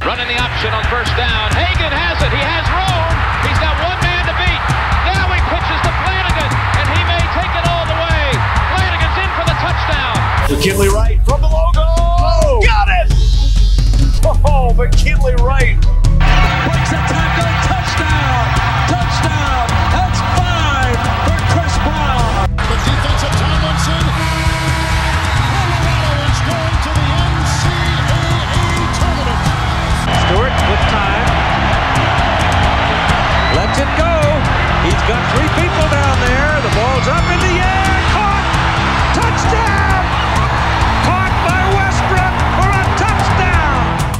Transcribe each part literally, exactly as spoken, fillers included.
Running the option on first down. Hagan has it. He has room. He's got one man to beat. Now he pitches to Flanagan, and he may take it all the way. Flanagan's in for the touchdown. McKinley Wright from the logo. Oh, got it! Oh, McKinley Wright. Breaks a tackle. Touchdown. Touchdown. That's five for Chris Brown. The defense of Tomlinson. Colorado is going to the N C double A tournament. Stewart with time. Lets it go. He's got three people down there. The ball's up in the air. Caught. Touchdown. Caught by Westbrook for a touchdown.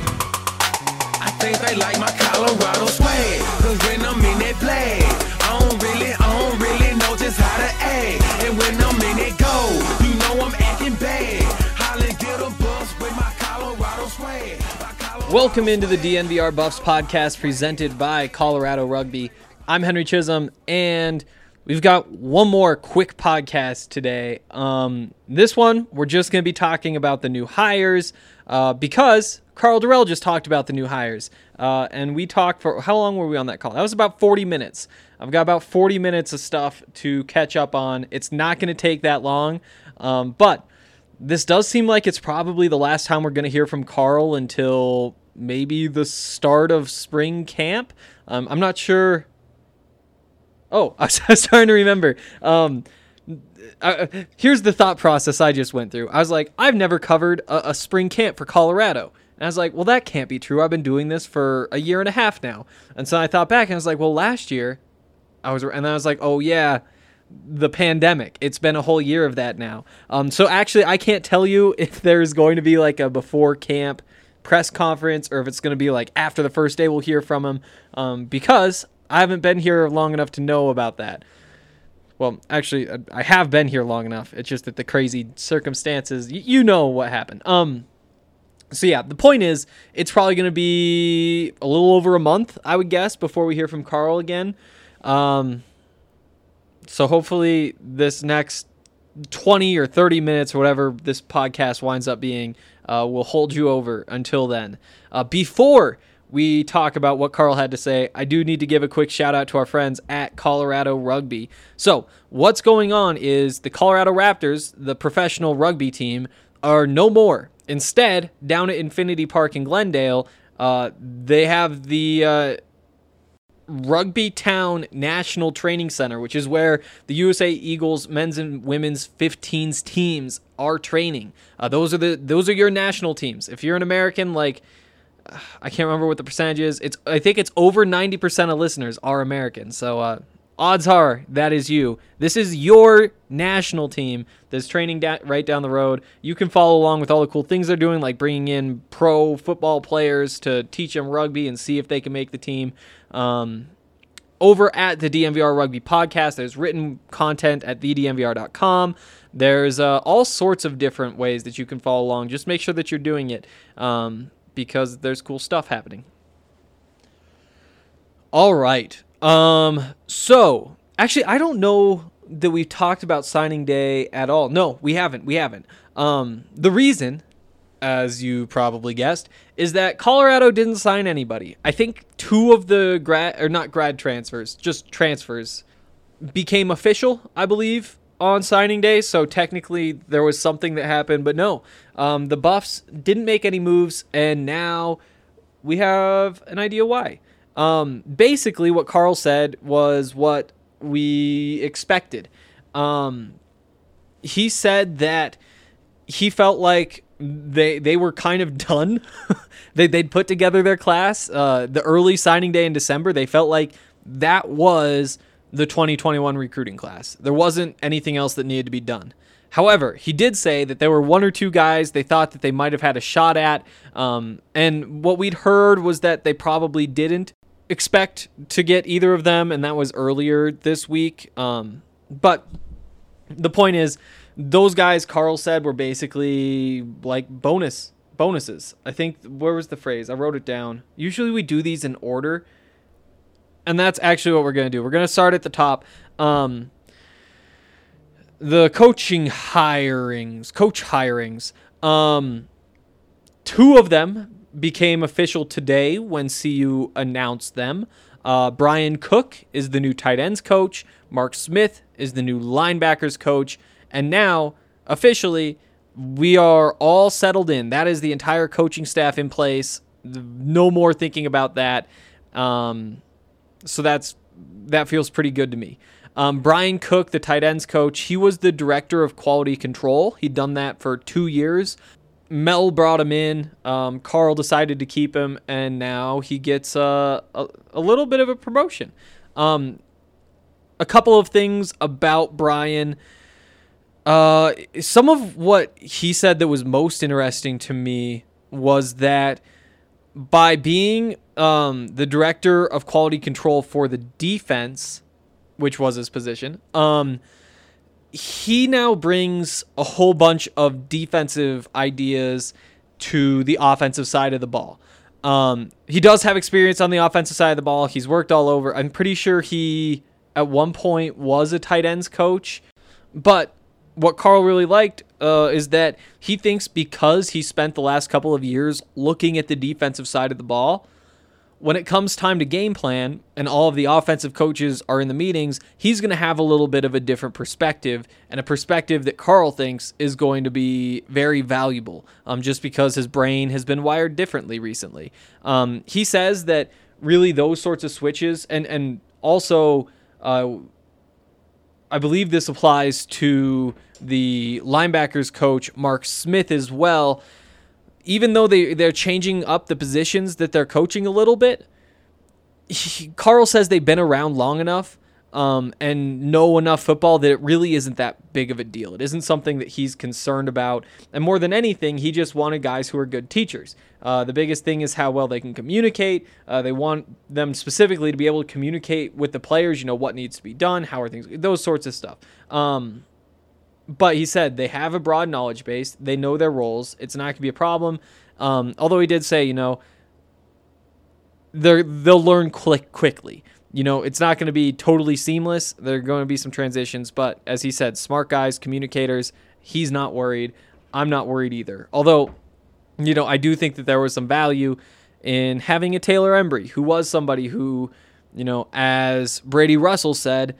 I think they like my Colorado swag. Cause when I'm in that play, I don't really, I don't really know just how to act. And when I'm in it go, you know I'm acting bad. Holly get a bus with my Colorado swag. My Colorado Welcome into the D N V R Buffs podcast presented by Colorado Rugby. I'm Henry Chisholm, and we've got one more quick podcast today. Um, this one, we're just going to be talking about the new hires uh, because Carl Durrell just talked about the new hires. Uh, and we talked for, how long were we on that call? That was about forty minutes. I've got about forty minutes of stuff to catch up on. It's not going to take that long, um, but this does seem like it's probably the last time we're going to hear from Carl until maybe the start of spring camp. Um, I'm not sure. Oh, I was trying to remember. Um, I, here's the thought process I just went through. I was like, I've never covered a, a spring camp for Colorado. And I was like, well, that can't be true. I've been doing this for a year and a half now. And so I thought back and I was like, well, last year I was, and I was like, oh yeah, the pandemic. It's been a whole year of that now. Um, so actually I can't tell you if there's going to be like a before camp press conference or if it's going to be like after the first day we'll hear from him. Um, because I haven't been here long enough to know about that. Well, actually, I have been here long enough. It's just that the crazy circumstances, you, you know what happened. Um, so yeah, the point is, it's probably going to be a little over a month, I would guess, before we hear from Carl again. Um, so hopefully this next twenty or thirty minutes or whatever this podcast winds up being uh, will hold you over until then. Uh, before we talk about what Carl had to say, I do need to give a quick shout out to our friends at Colorado Rugby. So what's going on is the Colorado Raptors, the professional rugby team, are no more. Instead, down at Infinity Park in Glendale, uh, they have the uh, Rugby Town National Training Center, which is where the U S A Eagles men's and women's fifteens teams are training. Uh, those are the those are your national teams. If you're an American, like, I can't remember what the percentage is. It's I think it's over ninety percent of listeners are American. So uh, odds are that is you. This is your national team that's training da- right down the road. You can follow along with all the cool things they're doing, like bringing in pro football players to teach them rugby and see if they can make the team. Um, over at the D N V R Rugby Podcast, there's written content at the d n v r dot com. There's uh, all sorts of different ways that you can follow along. Just make sure that you're doing it. Um, because there's cool stuff happening. All right. Um, so, actually, I don't know that we've talked about signing day at all. No, we haven't. We haven't. Um, the reason, as you probably guessed, is that Colorado didn't sign anybody. I think two of the grad, or not grad transfers, just transfers, became official, I believe, on signing day, so technically there was something that happened, but no, um, the Buffs didn't make any moves, and now we have an idea why. Um, basically, what Carl said was what we expected. Um, he said that he felt like they they were kind of done. they, they'd put together their class. Uh, the early signing day in December, they felt like that was the twenty twenty-one recruiting class. There wasn't anything else that needed to be done. However, he did say that there were one or two guys they thought that they might have had a shot at, um, and what we'd heard was that they probably didn't expect to get either of them, and that was earlier this week. Um, but the point is, those guys, Carl said, were basically like bonus bonuses. I think, where was the phrase? I wrote it down. Usually we do these in order, and that's actually what we're going to do. We're going to start at the top. Um, the coaching hirings, coach hirings. Um, two of them became official today when C U announced them. Uh, Brian Cook is the new tight ends coach. Mark Smith is the new linebackers coach. And now, officially, we are all settled in. That is the entire coaching staff in place. No more thinking about that. Um, so that's that feels pretty good to me. Um, Brian Cook, the tight ends coach, he was the director of quality control. He'd done that for two years. Mel brought him in. Um, Carl decided to keep him, and now he gets uh, a, a little bit of a promotion. Um, a couple of things about Brian. Uh, some of what he said that was most interesting to me was that by being um, the director of quality control for the defense, which was his position, um, he now brings a whole bunch of defensive ideas to the offensive side of the ball. Um, he does have experience on the offensive side of the ball. He's worked all over. I'm pretty sure he, at one point, was a tight ends coach. But what Carl really liked uh, is that he thinks because he spent the last couple of years looking at the defensive side of the ball, when it comes time to game plan and all of the offensive coaches are in the meetings, he's going to have a little bit of a different perspective, and a perspective that Carl thinks is going to be very valuable um, just because his brain has been wired differently recently. Um, he says that really those sorts of switches, and, and also uh, I believe this applies to the linebackers coach, Mark Smith, as well. Even though they, they're changing up the positions that they're coaching a little bit, he, Carl says they've been around long enough um, and know enough football that it really isn't that big of a deal. It isn't something that he's concerned about. And more than anything, he just wanted guys who are good teachers. Uh, the biggest thing is how well they can communicate. Uh, they want them specifically to be able to communicate with the players, you know, what needs to be done, how are things, those sorts of stuff. Um But he said they have a broad knowledge base. They know their roles. It's not going to be a problem. Um, although he did say, you know, they're, they'll learn quick, quickly. You know, it's not going to be totally seamless. There are going to be some transitions. But as he said, smart guys, communicators, he's not worried. I'm not worried either. Although, you know, I do think that there was some value in having a Taylor Embry, who was somebody who, you know, as Brady Russell said,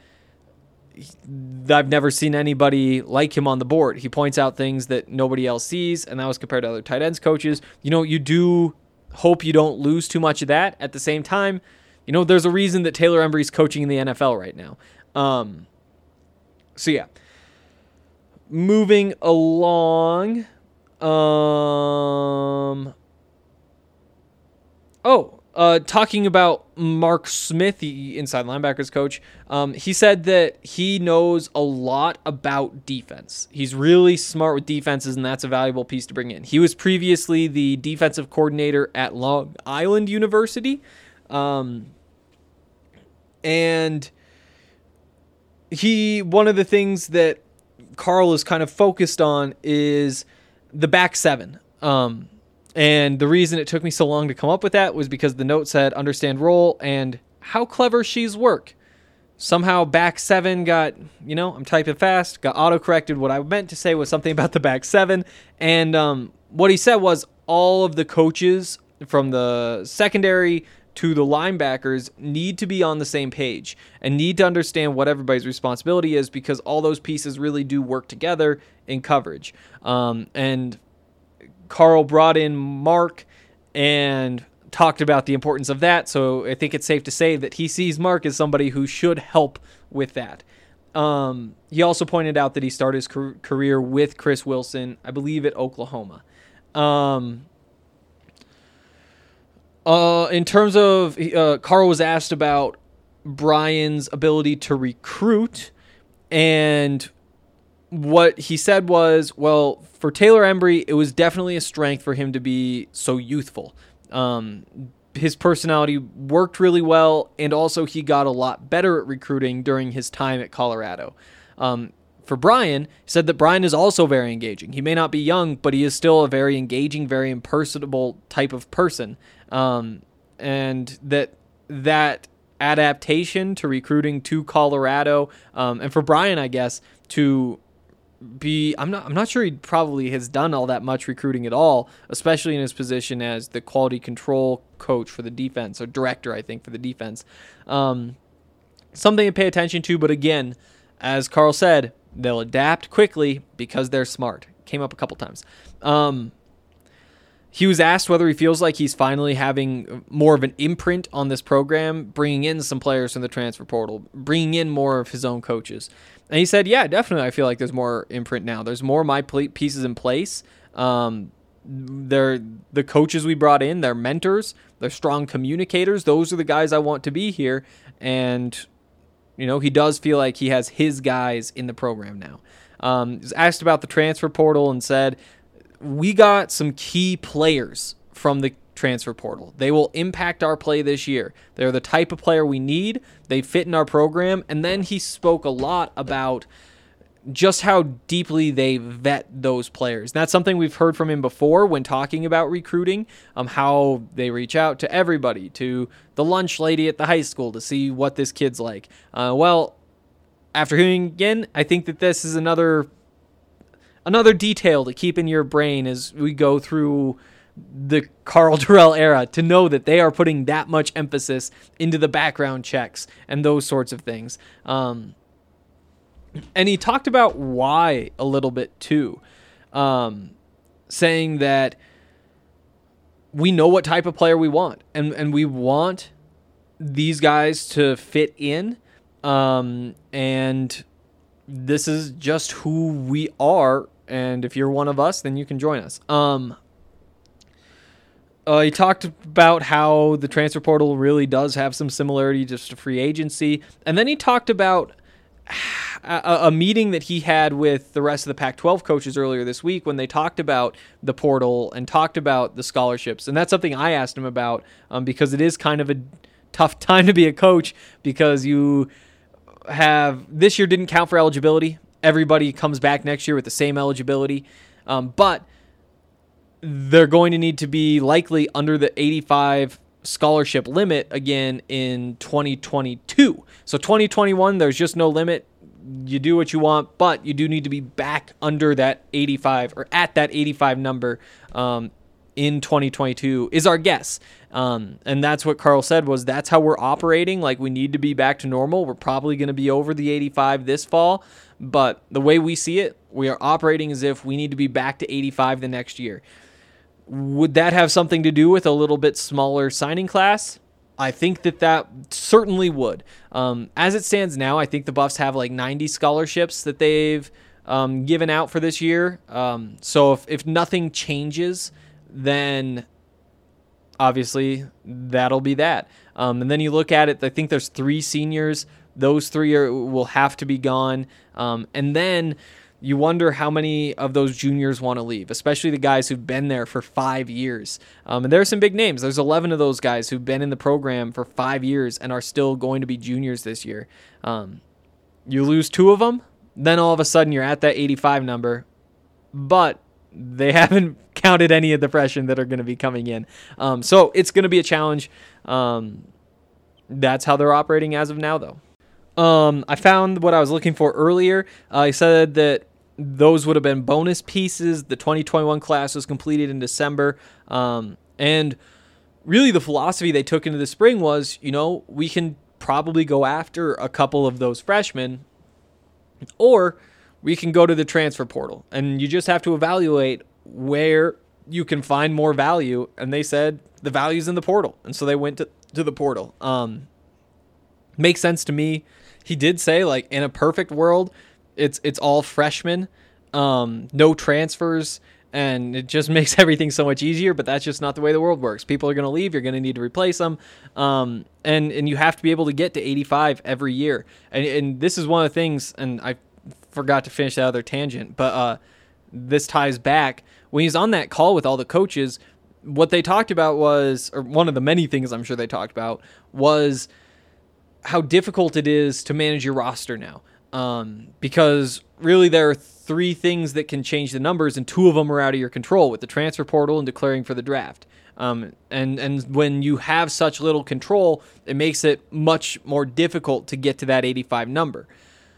I've never seen anybody like him on the board. He points out things that nobody else sees, and that was compared to other tight ends coaches. You know, you do hope you don't lose too much of that. At the same time, you know, there's a reason that Taylor Embry's coaching in the N F L right now. Um, so, yeah. Moving along. Um, oh, Uh, talking about Mark Smith, the inside linebackers coach, um, he said that he knows a lot about defense. He's really smart with defenses, and that's a valuable piece to bring in. He was previously the defensive coordinator at Long Island University, um, and he one of the things that Carl is kind of focused on is the back seven. Um, And the reason it took me so long to come up with that was because the note said understand role and how clever she's work. Somehow back seven got, you know, I'm typing fast, got auto-corrected. What I meant to say was something about the back seven. And um, what he said was all of the coaches from the secondary to the linebackers need to be on the same page and need to understand what everybody's responsibility is, because all those pieces really do work together in coverage. Um, and Carl brought in Mark and talked about the importance of that, so I think it's safe to say that he sees Mark as somebody who should help with that. Um, he also pointed out that he started his career with Chris Wilson, I believe at Oklahoma. Um, uh, in terms of, uh, Carl was asked about Brian's ability to recruit, and what he said was, well, for Taylor Embry, it was definitely a strength for him to be so youthful. Um, his personality worked really well, and also he got a lot better at recruiting during his time at Colorado. Um, for Brian, he said that Brian is also very engaging. He may not be young, but he is still a very engaging, very impersonable type of person. Um, and that that adaptation to recruiting to Colorado, um, and for Brian, I guess, to be I'm not I'm not sure he probably has done all that much recruiting at all, especially in his position as the quality control coach for the defense, or director, I think, for the defense. Um, something to pay attention to, but again, as Carl said, they'll adapt quickly because they're smart. Came up a couple times. Um, he was asked whether he feels like he's finally having more of an imprint on this program, bringing in some players from the transfer portal, bringing in more of his own coaches. And he said, yeah, definitely, I feel like there's more imprint now. There's more of my pieces in place. Um, they're the coaches we brought in, they're mentors, they're strong communicators. Those are the guys I want to be here. And, you know, he does feel like he has his guys in the program now. Um, he was asked about the transfer portal and said, we got some key players from the transfer portal. They will impact our play this year. They're the type of player we need. They fit in our program. And then he spoke a lot about just how deeply they vet those players. That's something we've heard from him before when talking about recruiting, um, how they reach out to everybody, to the lunch lady at the high school to see what this kid's like. Uh, well, after hearing again, I think that this is another another detail to keep in your brain as we go through the Karl Dorrell era, to know that they are putting that much emphasis into the background checks and those sorts of things. Um, and he talked about why a little bit too, um, saying that we know what type of player we want, and, and we want these guys to fit in. Um, and this is just who we are. And if you're one of us, then you can join us. Um, uh, he talked about how the transfer portal really does have some similarity just to free agency. And then he talked about a, a meeting that he had with the rest of the Pac twelve coaches earlier this week when they talked about the portal and talked about the scholarships. And that's something I asked him about, um, because it is kind of a tough time to be a coach, because you have, this year didn't count for eligibility. Everybody comes back next year with the same eligibility. Um, but they're going to need to be likely under the eighty-five scholarship limit again in twenty twenty-two. So twenty twenty-one, there's just no limit. You do what you want, but you do need to be back under that eighty-five, or at that eighty-five number um, in twenty twenty-two is our guess. Um, and that's what Carl said, was that's how we're operating. Like, we need to be back to normal. We're probably going to be over the eighty-five this fall, but the way we see it, we are operating as if we need to be back to eighty-five the next year. Would that have something to do with a little bit smaller signing class? I think that that certainly would. Um, as it stands now, I think the Buffs have like ninety scholarships that they've um, given out for this year. Um, so if, if nothing changes, then obviously that'll be that. Um, and then you look at it, I think there's three seniors. Those three are, will have to be gone. Um, and then you wonder how many of those juniors want to leave, especially the guys who've been there for five years. Um, and there are some big names. There's eleven of those guys who've been in the program for five years and are still going to be juniors this year. Um, you lose two of them, then all of a sudden you're at that eighty-five number, but they haven't counted any of the freshmen that are going to be coming in. Um, so it's going to be a challenge. Um, that's how they're operating as of now, though. Um, I found what I was looking for earlier. Uh, I said that those would have been bonus pieces. The twenty twenty-one class was completed in December. Um, and really the philosophy they took into the spring was, you know, we can probably go after a couple of those freshmen, or we can go to the transfer portal. And you just have to evaluate where you can find more value. And they said the value's in the portal. And so they went to, to the portal. Um, makes sense to me. He did say, like, in a perfect world, it's it's all freshmen, um, no transfers, and it just makes everything so much easier. But that's just not the way the world works. People are going to leave. You're going to need to replace them, um, and and you have to be able to get to eighty-five every year. And, and this is one of the things. And I forgot to finish that other tangent, but uh, this ties back when he's on that call with all the coaches. What they talked about was, or one of the many things I'm sure they talked about was how difficult it is to manage your roster now. Um, because really there are three things that can change the numbers, and two of them are out of your control, with the transfer portal and declaring for the draft. Um, and, and when you have such little control, it makes it much more difficult to get to that eighty-five number.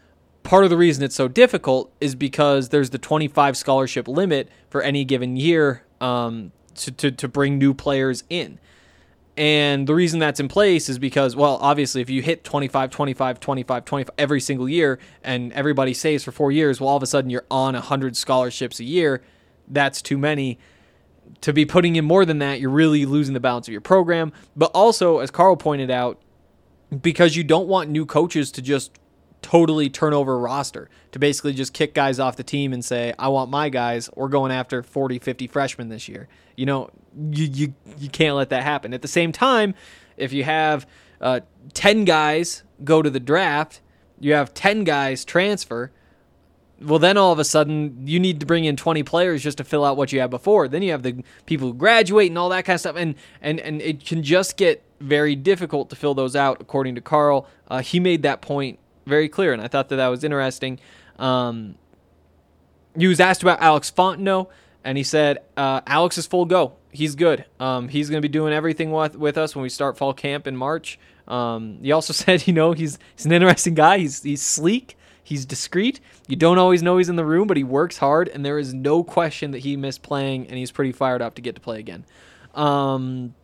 part of the reason it's so difficult is because there's the twenty-five scholarship limit for any given year um, to, to, to bring new players in. And the reason that's in place is because, well, obviously, if you hit twenty-five, twenty-five, twenty-five, twenty-five every single year and everybody saves for four years, well, all of a sudden you're on one hundred scholarships a year. That's too many. To be putting in more than that, you're really losing the balance of your program. But also, as Carl pointed out, because you don't want new coaches to just totally turn over a roster, to basically just kick guys off the team and say, I want my guys, we're going after forty, fifty freshmen this year. You know, you you, you can't let that happen. At the same time, if you have uh, ten guys go to the draft, you have ten guys transfer, well, then all of a sudden you need to bring in twenty players just to fill out what you had before. Then you have the people who graduate and all that kind of stuff. And, and, and it can just get very difficult to fill those out, according to Carl. Uh, he made that point very clear, and I thought that that was interesting. Um, he was asked about Alex Fontenot, and he said, uh, Alex is full go. He's good. Um, he's going to be doing everything with, with us when we start fall camp in March. Um, he also said, you know, he's he's an interesting guy. He's he's sleek. He's discreet. You don't always know he's in the room, but he works hard, and there is no question that he missed playing, and he's pretty fired up to get to play again. Um,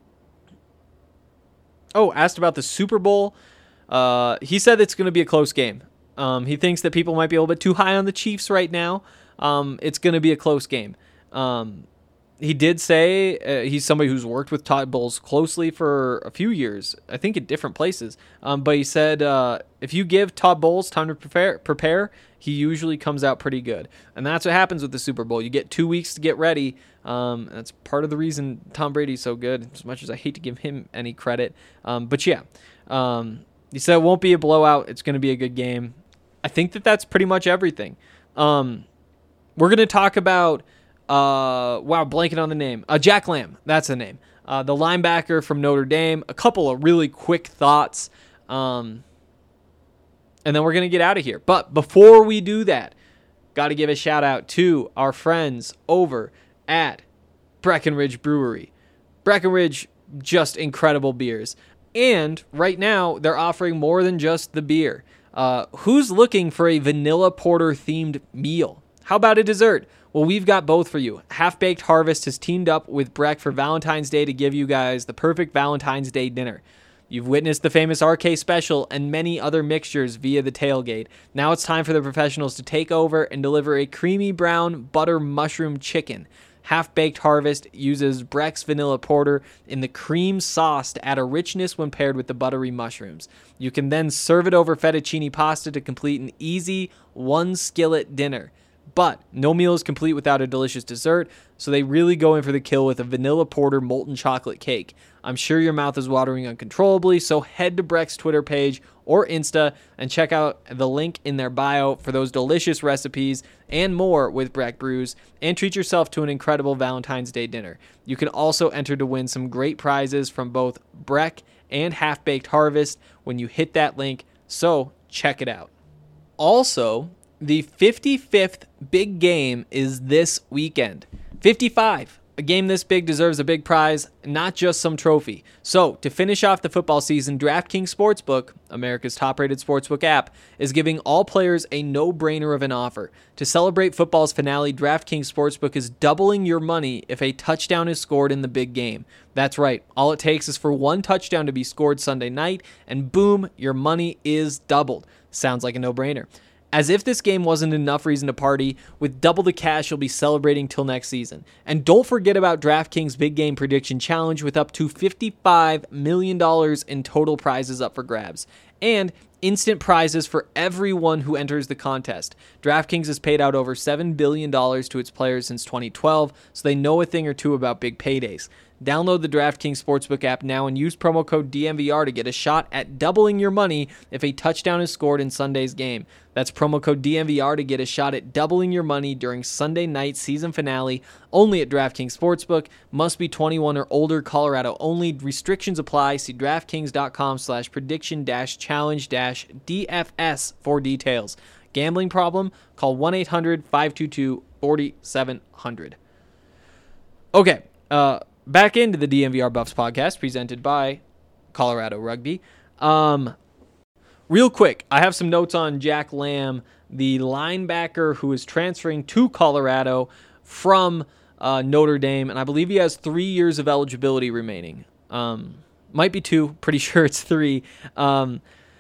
oh, asked about the Super Bowl. Uh, he said it's going to be a close game. Um, he thinks that people might be a little bit too high on the Chiefs right now. Um, it's going to be a close game. Um, he did say uh, he's somebody who's worked with Todd Bowles closely for a few years, I think at different places. Um, but he said uh, if you give Todd Bowles time to prepare, prepare, he usually comes out pretty good. And that's what happens with the Super Bowl. You get two weeks to get ready. Um, that's part of the reason Tom Brady's so good, as much as I hate to give him any credit. Um, but yeah, um, he said it won't be a blowout. It's going to be a good game. I think that that's pretty much everything. Um, we're going to talk about, uh, wow, blanking on the name. Uh, Jack Lamb, that's the name. Uh, the linebacker from Notre Dame. A couple of really quick thoughts. Um, and then we're going to get out of here. But before we do that, got to give a shout out to our friends over at Breckenridge Brewery. Breckenridge, just incredible beers. And right now, they're offering more than just the beer. Uh, who's looking for a vanilla porter themed meal? How about a dessert? Well, we've got both for you. Half-Baked Harvest has teamed up with Breck for Valentine's Day to give you guys the perfect Valentine's Day dinner. You've witnessed the famous R K Special and many other mixtures via the tailgate. Now it's time for the professionals to take over and deliver a creamy brown butter mushroom chicken. Half-Baked Harvest uses Breck's vanilla porter in the cream sauce to add a richness when paired with the buttery mushrooms. You can then serve it over fettuccine pasta to complete an easy one-skillet dinner. But no meal is complete without a delicious dessert, so they really go in for the kill with a vanilla porter molten chocolate cake. I'm sure your mouth is watering uncontrollably, so head to Breck's Twitter page or Insta and check out the link in their bio for those delicious recipes and more with Breck Brews, and treat yourself to an incredible Valentine's Day dinner. You can also enter to win some great prizes from both Breck and Half-Baked Harvest when you hit that link, so check it out. Also, the fifty-fifth big game is this weekend. fifty-five. A game this big deserves a big prize, not just some trophy. So, to finish off the football season, DraftKings Sportsbook, America's top-rated sportsbook app, is giving all players a no-brainer of an offer. To celebrate football's finale, DraftKings Sportsbook is doubling your money if a touchdown is scored in the big game. That's right. All it takes is for one touchdown to be scored Sunday night, and boom, your money is doubled. Sounds like a no-brainer. As if this game wasn't enough reason to party, with double the cash you'll be celebrating till next season. And don't forget about DraftKings Big Game Prediction Challenge with up to fifty-five million dollars in total prizes up for grabs. And instant prizes for everyone who enters the contest. DraftKings has paid out over seven billion dollars to its players since twenty twelve, so they know a thing or two about big paydays. Download the DraftKings Sportsbook app now and use promo code D M V R to get a shot at doubling your money if a touchdown is scored in Sunday's game. That's promo code D M V R to get a shot at doubling your money during Sunday night's season finale, only at DraftKings Sportsbook. Must be twenty-one or older, Colorado only. Restrictions apply. See DraftKings.com slash prediction dash challenge dash DFS for details. Gambling problem? Call one eight hundred five two two four seven zero zero. Okay, uh... back into the D M V R Buffs podcast presented by Colorado Rugby. Um, real quick, I have some notes on Jack Lamb, the linebacker who is transferring to Colorado from uh, Notre Dame, and I believe he has three years of eligibility remaining. Um, might be two. Pretty sure it's three. Um,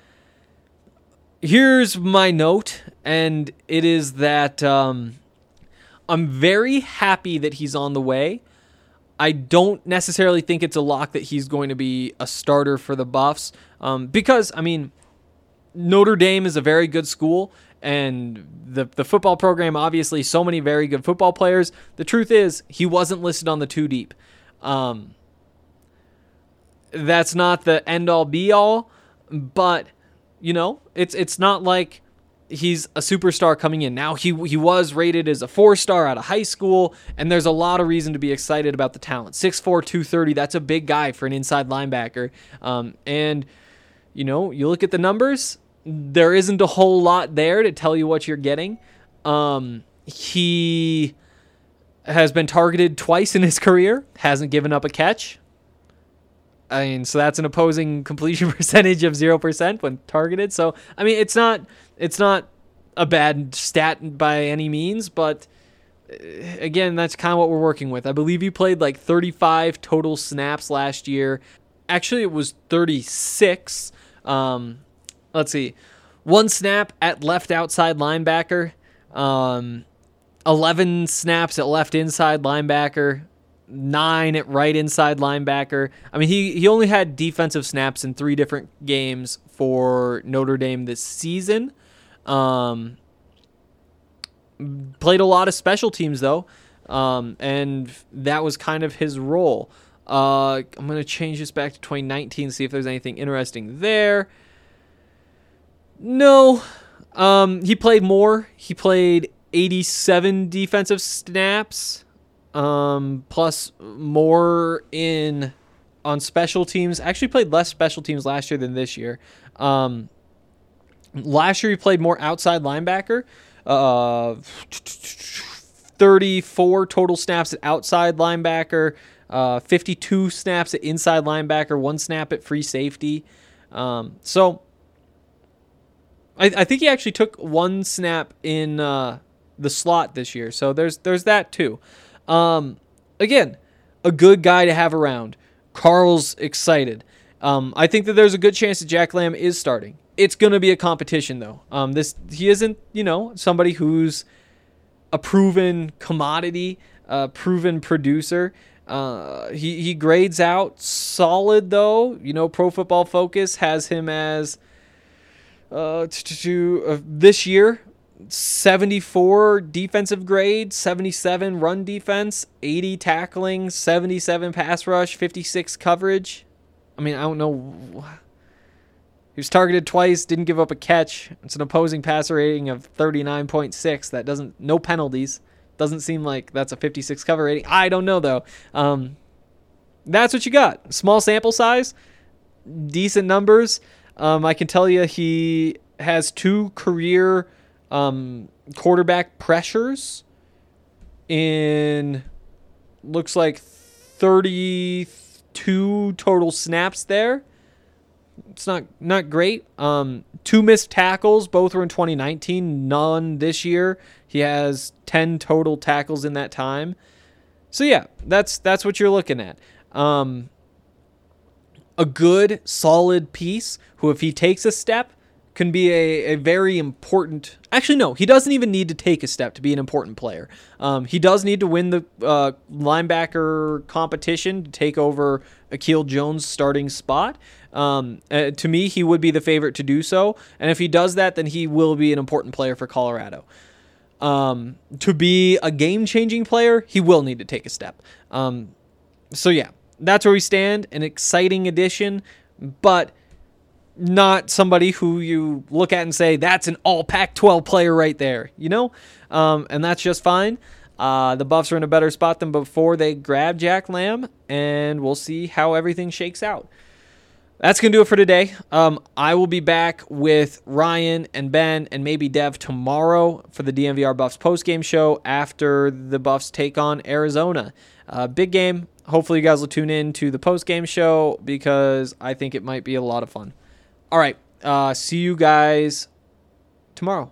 here's my note, and it is that um, I'm very happy that he's on the way. I don't necessarily think it's a lock that he's going to be a starter for the Buffs um, because, I mean, Notre Dame is a very good school, and the the football program, obviously, so many very good football players. The truth is, he wasn't listed on the two deep. Um, that's not the end-all, be-all, but, you know, it's it's not like he's a superstar coming in. Now, he he was rated as a four-star out of high school, and there's a lot of reason to be excited about the talent. six four, two thirty, that's a big guy for an inside linebacker. Um, and, you know, you look at the numbers, there isn't a whole lot there to tell you what you're getting. Um, he has been targeted twice in his career, hasn't given up a catch. I mean, so that's an opposing completion percentage of zero percent when targeted. So, I mean, it's not it's not a bad stat by any means, but again, that's kind of what we're working with. I believe he played like thirty-five total snaps last year. Actually, it was thirty-six. Um, let's see. One snap at left outside linebacker. Um, eleven snaps at left inside linebacker. Nine at right inside linebacker. I mean, he, he only had defensive snaps in three different games for Notre Dame this season. Um, played a lot of special teams, though, um, and that was kind of his role. Uh, I'm going to change this back to twenty nineteen, see if there's anything interesting there. No. Um, he played more. He played eighty-seven defensive snaps. Um, plus more in on special teams. Actually played less special teams last year than this year. Um, last year he played more outside linebacker. Uh, thirty-four total snaps at outside linebacker. Uh, fifty-two snaps at inside linebacker. One snap at free safety. Um, so I, I think he actually took one snap in uh, the slot this year. So there's there's that too. Um, again, a good guy to have around. Carl's excited. Um, I think that there's a good chance that Jack Lamb is starting. It's going to be a competition, though. Um, this he isn't, you know, somebody who's a proven commodity, a proven producer. Uh, he he grades out solid, though. You know, Pro Football Focus has him as uh, to, uh this year. seventy-four defensive grade, seventy-seven run defense, eighty tackling, seventy-seven pass rush, fifty-six coverage. I mean, I don't know. He was targeted twice, didn't give up a catch. It's an opposing passer rating of thirty-nine point six. That doesn't, no penalties. Doesn't seem like that's a fifty-six cover rating. I don't know, though. Um, that's what you got. Small sample size, decent numbers. Um, I can tell you he has two career Um, quarterback pressures in looks like thirty-two total snaps there. It's not not great. Um, two missed tackles, both were in twenty nineteen, none this year. He has ten total tackles in that time. So yeah, that's that's what you're looking at. Um, a good, solid piece who, if he takes a step, can be a, a very important... Actually, no, he doesn't even need to take a step to be an important player. Um, he does need to win the uh, linebacker competition to take over Akil Jones' starting spot. Um, uh, to me, he would be the favorite to do so. And if he does that, then he will be an important player for Colorado. Um, to be a game-changing player, he will need to take a step. Um, so yeah, that's where we stand. An exciting addition, but not somebody who you look at and say, that's an all Pac twelve player right there, you know? Um, and that's just fine. Uh, the Buffs are in a better spot than before they grabbed Jack Lamb, and we'll see how everything shakes out. That's going to do it for today. Um, I will be back with Ryan and Ben and maybe Dev tomorrow for the D N V R Buffs postgame show after the Buffs take on Arizona. Uh, big game. Hopefully you guys will tune in to the postgame show because I think it might be a lot of fun. All right, Uh, see you guys tomorrow.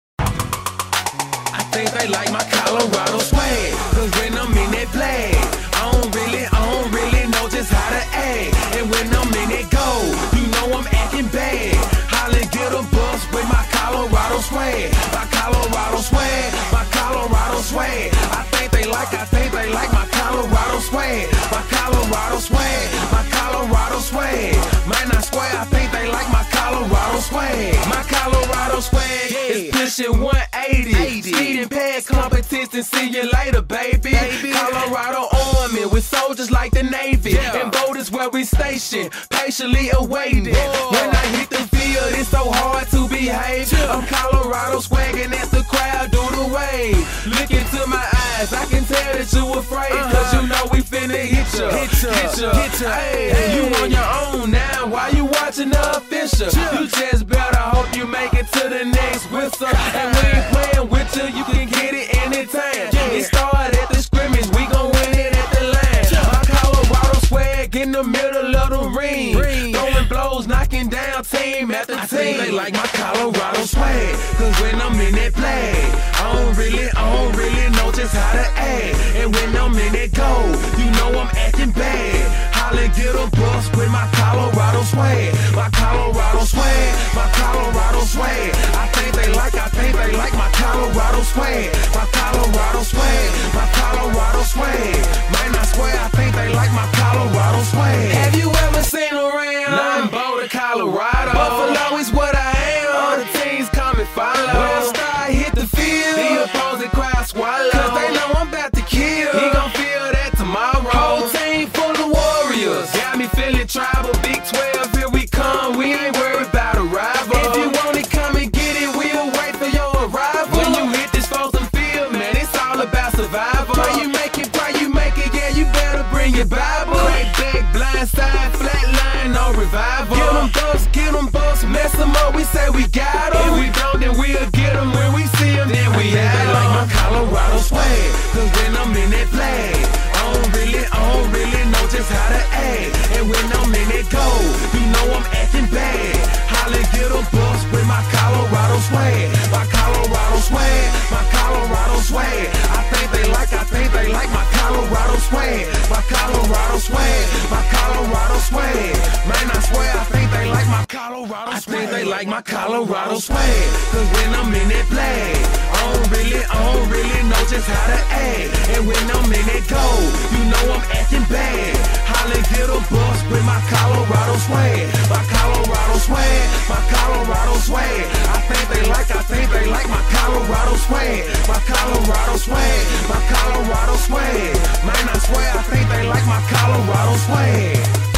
I think they like my Colorado swag, cause when I'm in that play, I don't really, I don't really know just how to act. And when I'm in that go, you know I'm acting bad. Holly get a bus with my Colorado swag, my Colorado swag, my Colorado swag. I think they like, I think they like my Colorado swag, my Colorado swag, my Colorado swag. Man, I swear I think they like my Colorado swag, my Colorado swag is pushing one eighty. Speeding past competition, see you later, baby. baby. Colorado Army with soldiers like the Navy, yeah. And boat is where we station, patiently awaiting. Whoa. When I hit the field, it's so hard to behave. Yeah. I'm Colorado swagging as the crowd do the wave. Look into my eyes, I can tell that you afraid, uh-huh. Cause you know we finna hit ya, hit ya, hit ya, hit ya. Hey, hey. You on your own now, why you watching the official? Yeah. You just better hope you make it to the next whistle. And we ain't playing with you, you can get it anytime. Yeah. It started at the scrimmage, we gon' win it at the line. Yeah. My Colorado swag in the middle of the ring, ring. Throwing blows, knocking down team after I team. Think they like my Colorado swag, cause when I'm in that play, I don't really, I don't really know just how to act. And when I'm in that go, you know I'm acting bad. Holly get a bus with my Colorado swag, my Colorado swag, my Colorado swag. I think they like, I think they like my Colorado swag, my Colorado swag, my Colorado swag. Man, I swear I think they like my Colorado swag. Have you ever seen around? Nah, I'm Boulder, Colorado. Buffalo is what I am. All the teams come and follow. When I start hit the field, the opposing crowd swallow, cause they know I'm about to kill. He gon' feel that tomorrow. Whole team full of warriors, got me feeling tribal. Big twelve, here we come. We ain't worried about a rival. If you want it, come and get it. We'll wait for your arrival. When you hit this frozen field, man, it's all about survival. Pray you make it, pray you make it. Yeah, you better bring your Bible. Crack back, blind side, flat line, no revival. Get them bucks, get them bucks, mess them up. We say we got them. If we don't, then we'll get them. When we see them, then we have them. Like my Colorado swag, cause when I'm in that flag, I don't really, I don't really know just how to act. And when I'm in that go, you know I'm acting bad. Holly get a bus with my Colorado swag, my Colorado swag, my Colorado swag. I think they like, I think they like my Colorado swag, my Colorado swag, my Colorado swag. Man, I swear I think they like my Colorado swag. I think they like my Colorado swag, cause when I'm in that flag, I don't really, I don't really know just how to act. And when I'm in that go, you know I'm acting bad. Holly get a bus with my Colorado swag, my Colorado swag, my Colorado swag. I think they like, I think they like my Colorado swag, my Colorado swag, my Colorado swag. Man, I swear I think they like my Colorado swag.